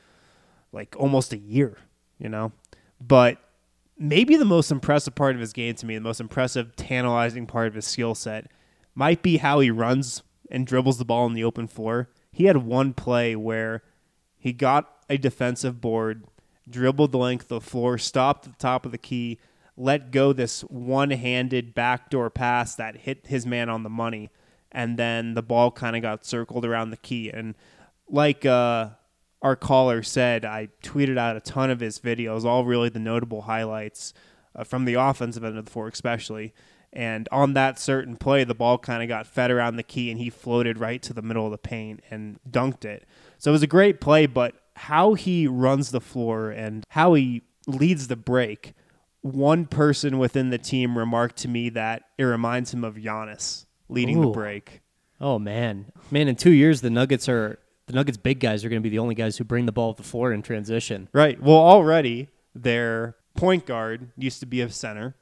like almost a year, you know? But maybe the most impressive part of his game to me, the most impressive, tantalizing part of his skill set might be how he runs and dribbles the ball on the open floor. He had one play where he got a defensive board, dribbled the length of the floor, stopped at the top of the key, let go this one-handed backdoor pass that hit his man on the money, and then the ball kind of got circled around the key. And like uh, our caller said, I tweeted out a ton of his videos, all really the notable highlights uh, from the offensive end of the floor especially. And on that certain play, the ball kind of got fed around the key, and he floated right to the middle of the paint and dunked it. So it was a great play, but how he runs the floor and how he leads the break, one person within the team remarked to me that it reminds him of Giannis leading Ooh. the break. Oh, man. Man, in two years, the Nuggets are the Nuggets big guys are going to be the only guys who bring the ball to the floor in transition. Right. Well, already their point guard used to be a center,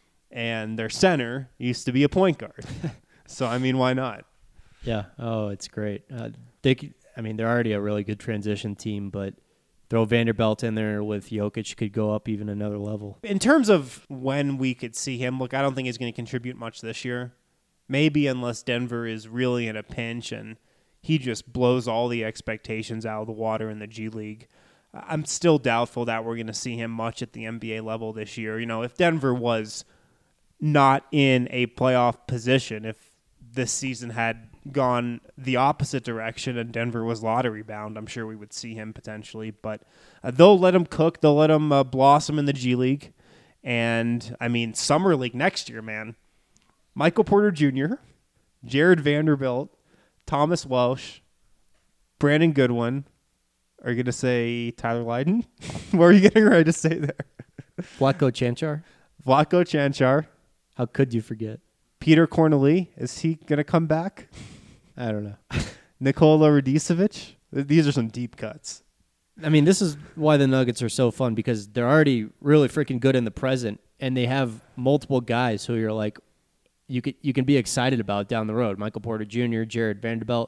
and their center used to be a point guard. So, I mean, why not? Yeah. Oh, it's great. Uh, they, I mean, they're already a really good transition team, but throw Vanderbilt in there with Jokic could go up even another level. In terms of when we could see him, look, I don't think he's going to contribute much this year. Maybe unless Denver is really in a pinch and he just blows all the expectations out of the water in the G League. I'm still doubtful that we're going to see him much at the N B A level this year. You know, if Denver was not in a playoff position, if this season had gone the opposite direction and Denver was lottery bound, I'm sure we would see him potentially. But uh, they'll let him cook. They'll let him uh, blossom in the G League. And, I mean, Summer League next year, man. Michael Porter Junior, Jared Vanderbilt, Thomas Welsh, Brandon Goodwin. Are you going to say Tyler Lydon? What are you getting ready to say there? Vlatko Cancar. Vlatko Cancar. How could you forget? Peter Corneli. Is he going to come back? I don't know. Nikola Radicevic. These are some deep cuts. I mean, this is why the Nuggets are so fun, because they're already really freaking good in the present, and they have multiple guys who you're like, you could you can be excited about down the road. Michael Porter Junior, Jared Vanderbilt.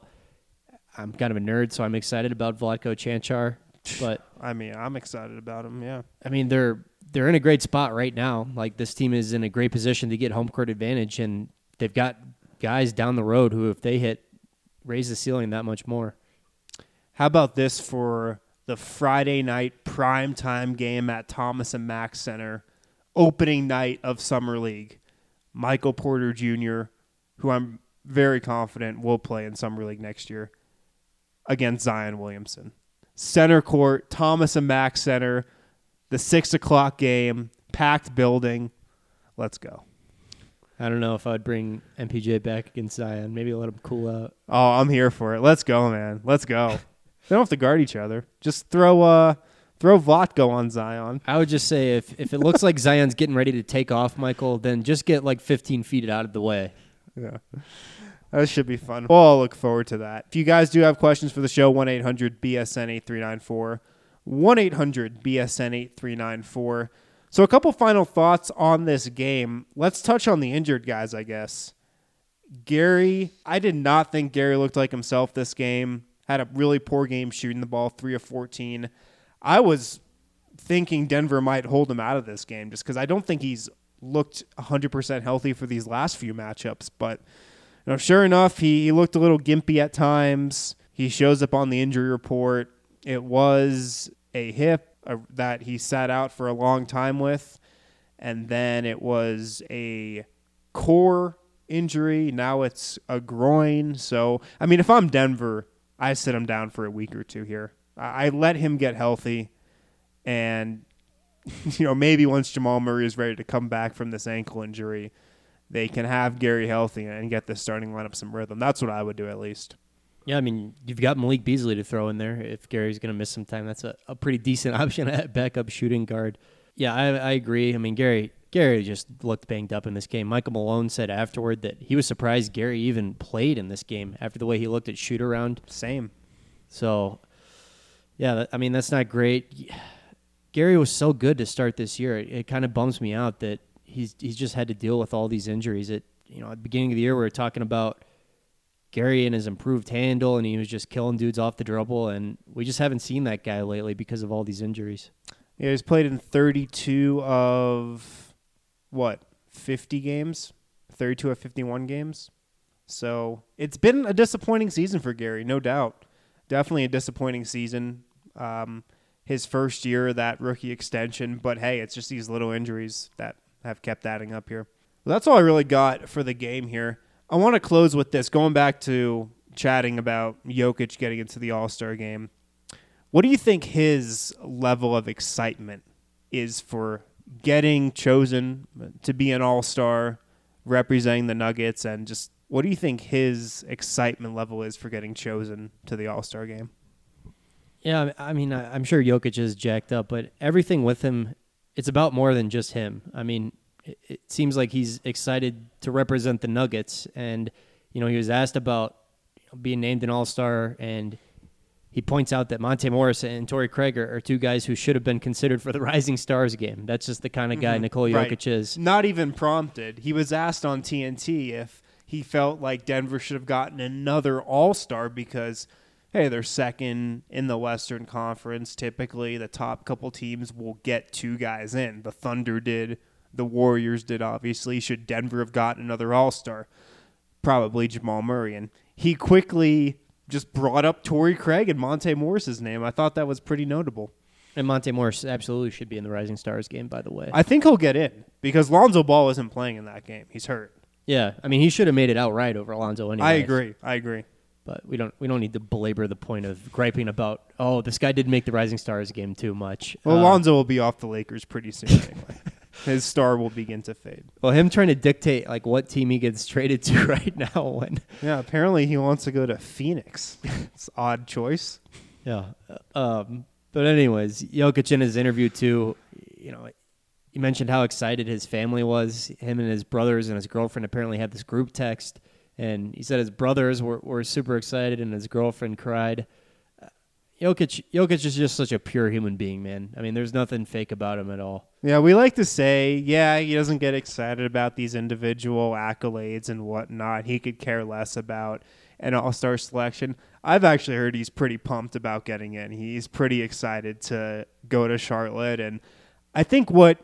I'm kind of a nerd, so I'm excited about Vlatko Cancar. But I mean, I'm excited about him. Yeah. I mean, they're they're in a great spot right now. Like, this team is in a great position to get home court advantage, and they've got guys down the road who, if they hit, raise the ceiling that much more. How about this for the Friday night primetime game at Thomas and Mack Center? opening night of Summer League. Michael Porter Junior, who I'm very confident will play in Summer League next year, against Zion Williamson. Center court, Thomas and Mack Center, the six o'clock game, packed building. Let's go. I don't know if I'd bring M P J back against Zion. Maybe let him cool out. Oh, I'm here for it. Let's go, man. Let's go. They don't have to guard each other. Just throw uh, throw Vlatko on Zion. I would just say if, if it looks like Zion's getting ready to take off, Michael, then just get like fifteen feet out of the way. Yeah. That should be fun. We'll all look forward to that. If you guys do have questions for the show, one eight hundred B S N eight three nine four. one eight hundred B S N eight three nine four. So a couple final thoughts on this game. Let's touch on the injured guys, I guess. Gary, I did not think Gary looked like himself this game. Had a really poor game shooting the ball, three of fourteen. I was thinking Denver might hold him out of this game just because I don't think he's looked one hundred percent healthy for these last few matchups. But you know, sure enough, he, he looked a little gimpy at times. He shows up on the injury report. It was a hip uh, that he sat out for a long time with, and then it was a core injury. Now it's a groin. So, I mean, if I'm Denver, I sit him down for a week or two here. I, I let him get healthy, and you know, maybe once Jamal Murray is ready to come back from this ankle injury, they can have Gary healthy and get the starting lineup some rhythm. That's what I would do at least. Yeah, I mean, you've got Malik Beasley to throw in there. If Gary's going to miss some time, that's a, a pretty decent option at backup shooting guard. Yeah, I, I agree. I mean, Gary Gary just looked banged up in this game. Michael Malone said afterward that he was surprised Gary even played in this game after the way he looked at shoot around. Same. So, yeah, that, I mean, that's not great. Gary was so good to start this year. It, it kind of bums me out that he's he's just had to deal with all these injuries. It, you know, at the beginning of the year, we were talking about Gary and his improved handle, and he was just killing dudes off the dribble, and we just haven't seen that guy lately because of all these injuries. Yeah, he's played in thirty-two of, what, fifty games? thirty-two of fifty-one games? So it's been a disappointing season for Gary, no doubt. Definitely a disappointing season. Um, his first year, that rookie extension, but hey, it's just these little injuries that have kept adding up here. Well, that's all I really got for the game here. I want to close with this, going back to chatting about Jokic getting into the All-Star game. What do you think his level of excitement is for getting chosen to be an All-Star, representing the Nuggets, and just what do you think his excitement level is for getting chosen to the All-Star game? Yeah, I mean, I'm sure Jokic is jacked up, but everything with him, it's about more than just him. I mean, it seems like he's excited to represent the Nuggets, and you know, he was asked about you know, being named an All-Star, and he points out that Monte Morris and Torrey Craig are, are two guys who should have been considered for the Rising Stars game. That's just the kind of guy mm-hmm. Nikola Jokic right. is. Not even prompted. He was asked on T N T if he felt like Denver should have gotten another All-Star because, hey, they're second in the Western Conference. Typically, the top couple teams will get two guys in. The Thunder did. The Warriors did, obviously. Should Denver have gotten another All-Star? Probably Jamal Murray. And he quickly just brought up Torrey Craig and Monte Morris's name. I thought that was pretty notable. And Monte Morris absolutely should be in the Rising Stars game, by the way. I think he'll get in because Lonzo Ball isn't playing in that game. He's hurt. Yeah, I mean, he should have made it outright over Lonzo anyway. I agree. I agree. But we don't we don't need to belabor the point of griping about, oh, this guy didn't make the Rising Stars game too much. Well, uh, Lonzo will be off the Lakers pretty soon anyway. His star will begin to fade. Well, him trying to dictate like what team he gets traded to right now. When yeah, apparently he wants to go to Phoenix. It's an odd choice. Yeah. Um, but anyways, Jokic in his interview too, you know, he mentioned how excited his family was. Him and his brothers and his girlfriend apparently had this group text, and he said his brothers were, were super excited and his girlfriend cried. Jokic, Jokic is just such a pure human being, man. I mean, there's nothing fake about him at all. Yeah, we like to say, yeah, he doesn't get excited about these individual accolades and whatnot. He could care less about an all-star selection. I've actually heard he's pretty pumped about getting in. He's pretty excited to go to Charlotte. And I think what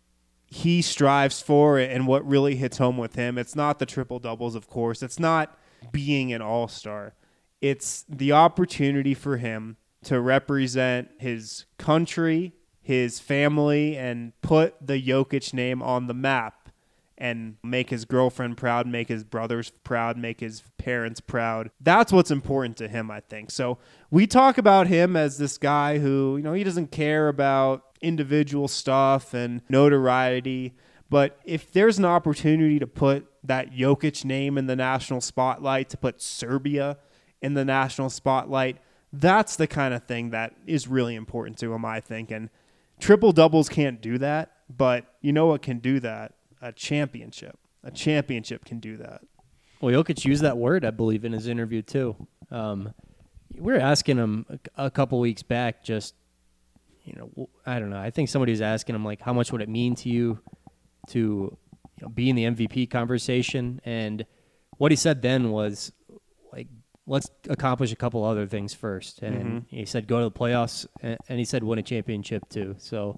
he strives for and what really hits home with him, it's not the triple-doubles, of course. It's not being an all-star. It's the opportunity for him to represent his country his family and put the Jokic name on the map and make his girlfriend proud, make his brothers proud, make his parents proud. That's what's important to him, I think. So we talk about him as this guy who, you know, he doesn't care about individual stuff and notoriety. But if there's an opportunity to put that Jokic name in the national spotlight, to put Serbia in the national spotlight, that's the kind of thing that is really important to him, I think. And triple doubles can't do that, but you know what can do that? A championship. A championship can do that. Well, Jokic used that word, I believe, in his interview too. Um, we were asking him a, a couple weeks back, just, you know, I don't know. I think somebody was asking him, like, how much would it mean to you to, you know, be in the M V P conversation? And what he said then was, like, let's accomplish a couple other things first. And mm-hmm. he said, go to the playoffs, and, and he said, win a championship too. So,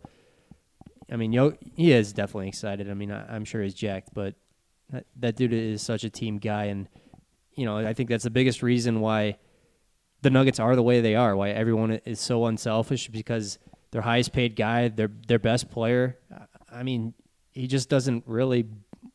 I mean, Yo, he is definitely excited. I mean, I, I'm sure he's jacked, but that, that dude is such a team guy. And, you know, I think that's the biggest reason why the Nuggets are the way they are, why everyone is so unselfish, because their highest paid guy, their their best player, I mean, he just doesn't really,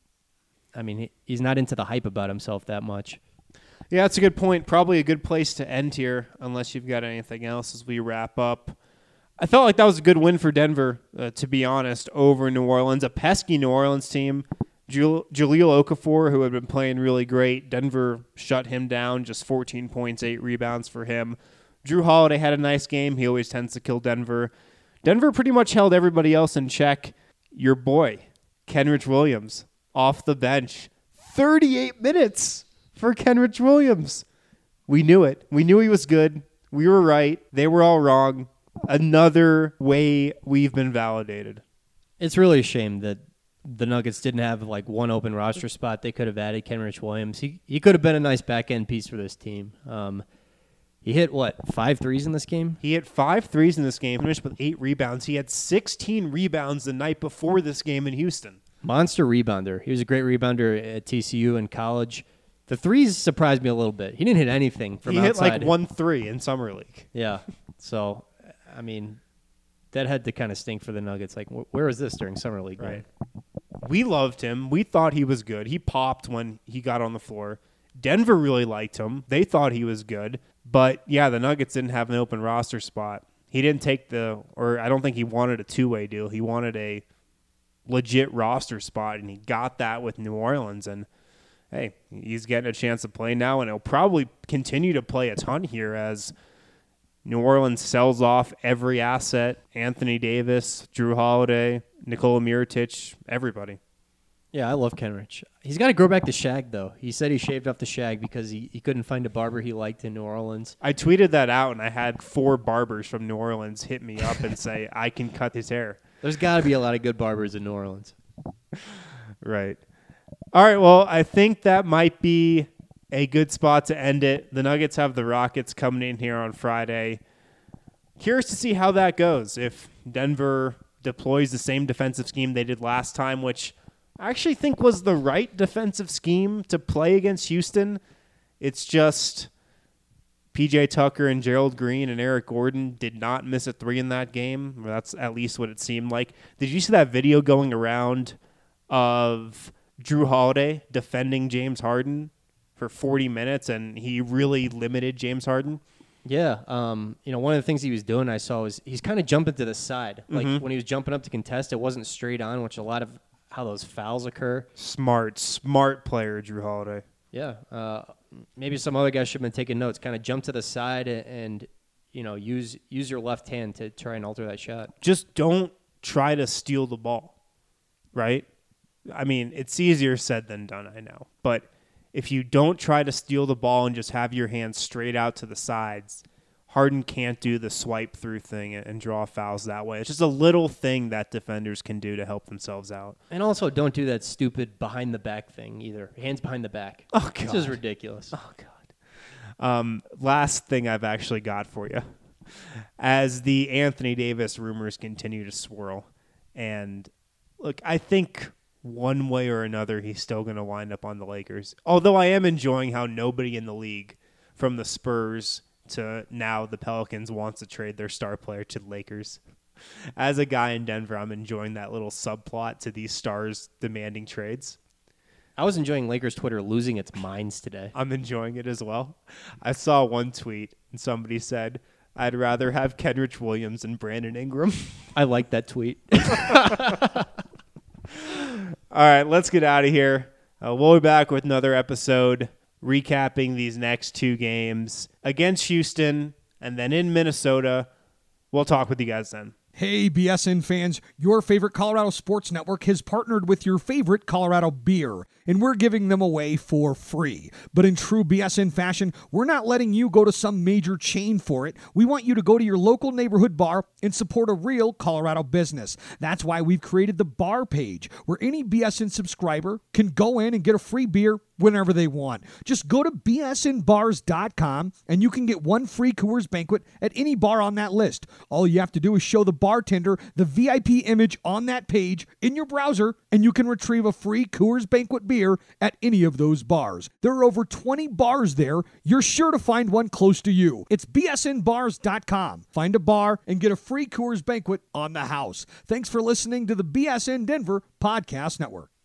I mean, he, he's not into the hype about himself that much. Yeah, that's a good point. Probably a good place to end here, unless you've got anything else as we wrap up. I felt like that was a good win for Denver, uh, to be honest, over New Orleans. A pesky New Orleans team. Jul- Jahlil Okafor, who had been playing really great. Denver shut him down, just fourteen points, eight rebounds for him. Jrue Holiday had a nice game. He always tends to kill Denver. Denver pretty much held everybody else in check. Your boy, Kenrich Williams, off the bench. thirty-eight minutes for Kenrich Williams. We knew it. We knew he was good. We were right. They were all wrong. Another way we've been validated. It's really a shame that the Nuggets didn't have like one open roster spot. They could have added Kenrich Williams. He he could have been a nice back end piece for this team. Um, he hit what five threes in this game? He hit five threes in this game. Finished with eight rebounds. He had sixteen rebounds the night before this game in Houston. Monster rebounder. He was a great rebounder at T C U in college. The threes surprised me a little bit. He didn't hit anything from he outside. He hit like one three in summer league. Yeah. So. I mean, that had to kind of stink for the Nuggets. Like, wh- where was this during Summer League? Right. We loved him. We thought he was good. He popped when he got on the floor. Denver really liked him. They thought he was good. But, yeah, the Nuggets didn't have an open roster spot. He didn't take the – or I don't think he wanted a two-way deal. He wanted a legit roster spot, and he got that with New Orleans. And, hey, he's getting a chance to play now, and he'll probably continue to play a ton here as – New Orleans sells off every asset. Anthony Davis, Jrue Holiday, Nikola Mirotic, everybody. Yeah, I love Kenrich. He's got to grow back the shag, though. He said he shaved off the shag because he, he couldn't find a barber he liked in New Orleans. I tweeted that out, and I had four barbers from New Orleans hit me up and say, I can cut his hair. There's got to be a lot of good barbers in New Orleans. Right. All right, well, I think that might be a good spot to end it. The Nuggets have the Rockets coming in here on Friday. Curious to see how that goes. If Denver deploys the same defensive scheme they did last time, which I actually think was the right defensive scheme to play against Houston. It's just P J Tucker and Gerald Green and Eric Gordon did not miss a three in that game. That's at least what it seemed like. Did you see that video going around of Jrue Holiday defending James Harden for forty minutes, and he really limited James Harden? Yeah. Um, you know, one of the things he was doing I saw was he's kind of jumping to the side. Like mm-hmm. when he was jumping up to contest, it wasn't straight on, which a lot of how those fouls occur. Smart, smart player, Jrue Holiday. Yeah. Uh, maybe some other guys should have been taking notes. Kind of jump to the side and, and, you know, use use your left hand to try and alter that shot. Just don't try to steal the ball, right? I mean, it's easier said than done, I know. But if you don't try to steal the ball and just have your hands straight out to the sides, Harden can't do the swipe through thing and draw fouls that way. It's just a little thing that defenders can do to help themselves out. And also, don't do that stupid behind the back thing either. Hands behind the back. Oh, God. This is ridiculous. Oh, God. Um, last thing I've actually got for you. As the Anthony Davis rumors continue to swirl, and look, I think one way or another, he's still going to wind up on the Lakers. Although I am enjoying how nobody in the league, from the Spurs to now the Pelicans, wants to trade their star player to the Lakers. As a guy in Denver, I'm enjoying that little subplot to these stars demanding trades. I was enjoying Lakers Twitter losing its minds today. I'm enjoying it as well. I saw one tweet and somebody said, I'd rather have Kenrich Williams and Brandon Ingram. I like that tweet. All right, let's get out of here. Uh, we'll be back with another episode recapping these next two games against Houston and then in Minnesota. We'll talk with you guys then. Hey, B S N fans, your favorite Colorado Sports Network has partnered with your favorite Colorado beer, and we're giving them away for free. But in true B S N fashion, we're not letting you go to some major chain for it. We want you to go to your local neighborhood bar and support a real Colorado business. That's why we've created the bar page, where any B S N subscriber can go in and get a free beer whenever they want. Just go to B S N bars dot com and you can get one free Coors Banquet at any bar on that list. All you have to do is show the bartender the V I P image on that page in your browser, and you can retrieve a free Coors Banquet beer at any of those bars. There are over twenty bars there. You're sure to find one close to you. It's B S N bars dot com. Find a bar and get a free Coors Banquet on the house. Thanks for listening to the B S N Denver Podcast Network.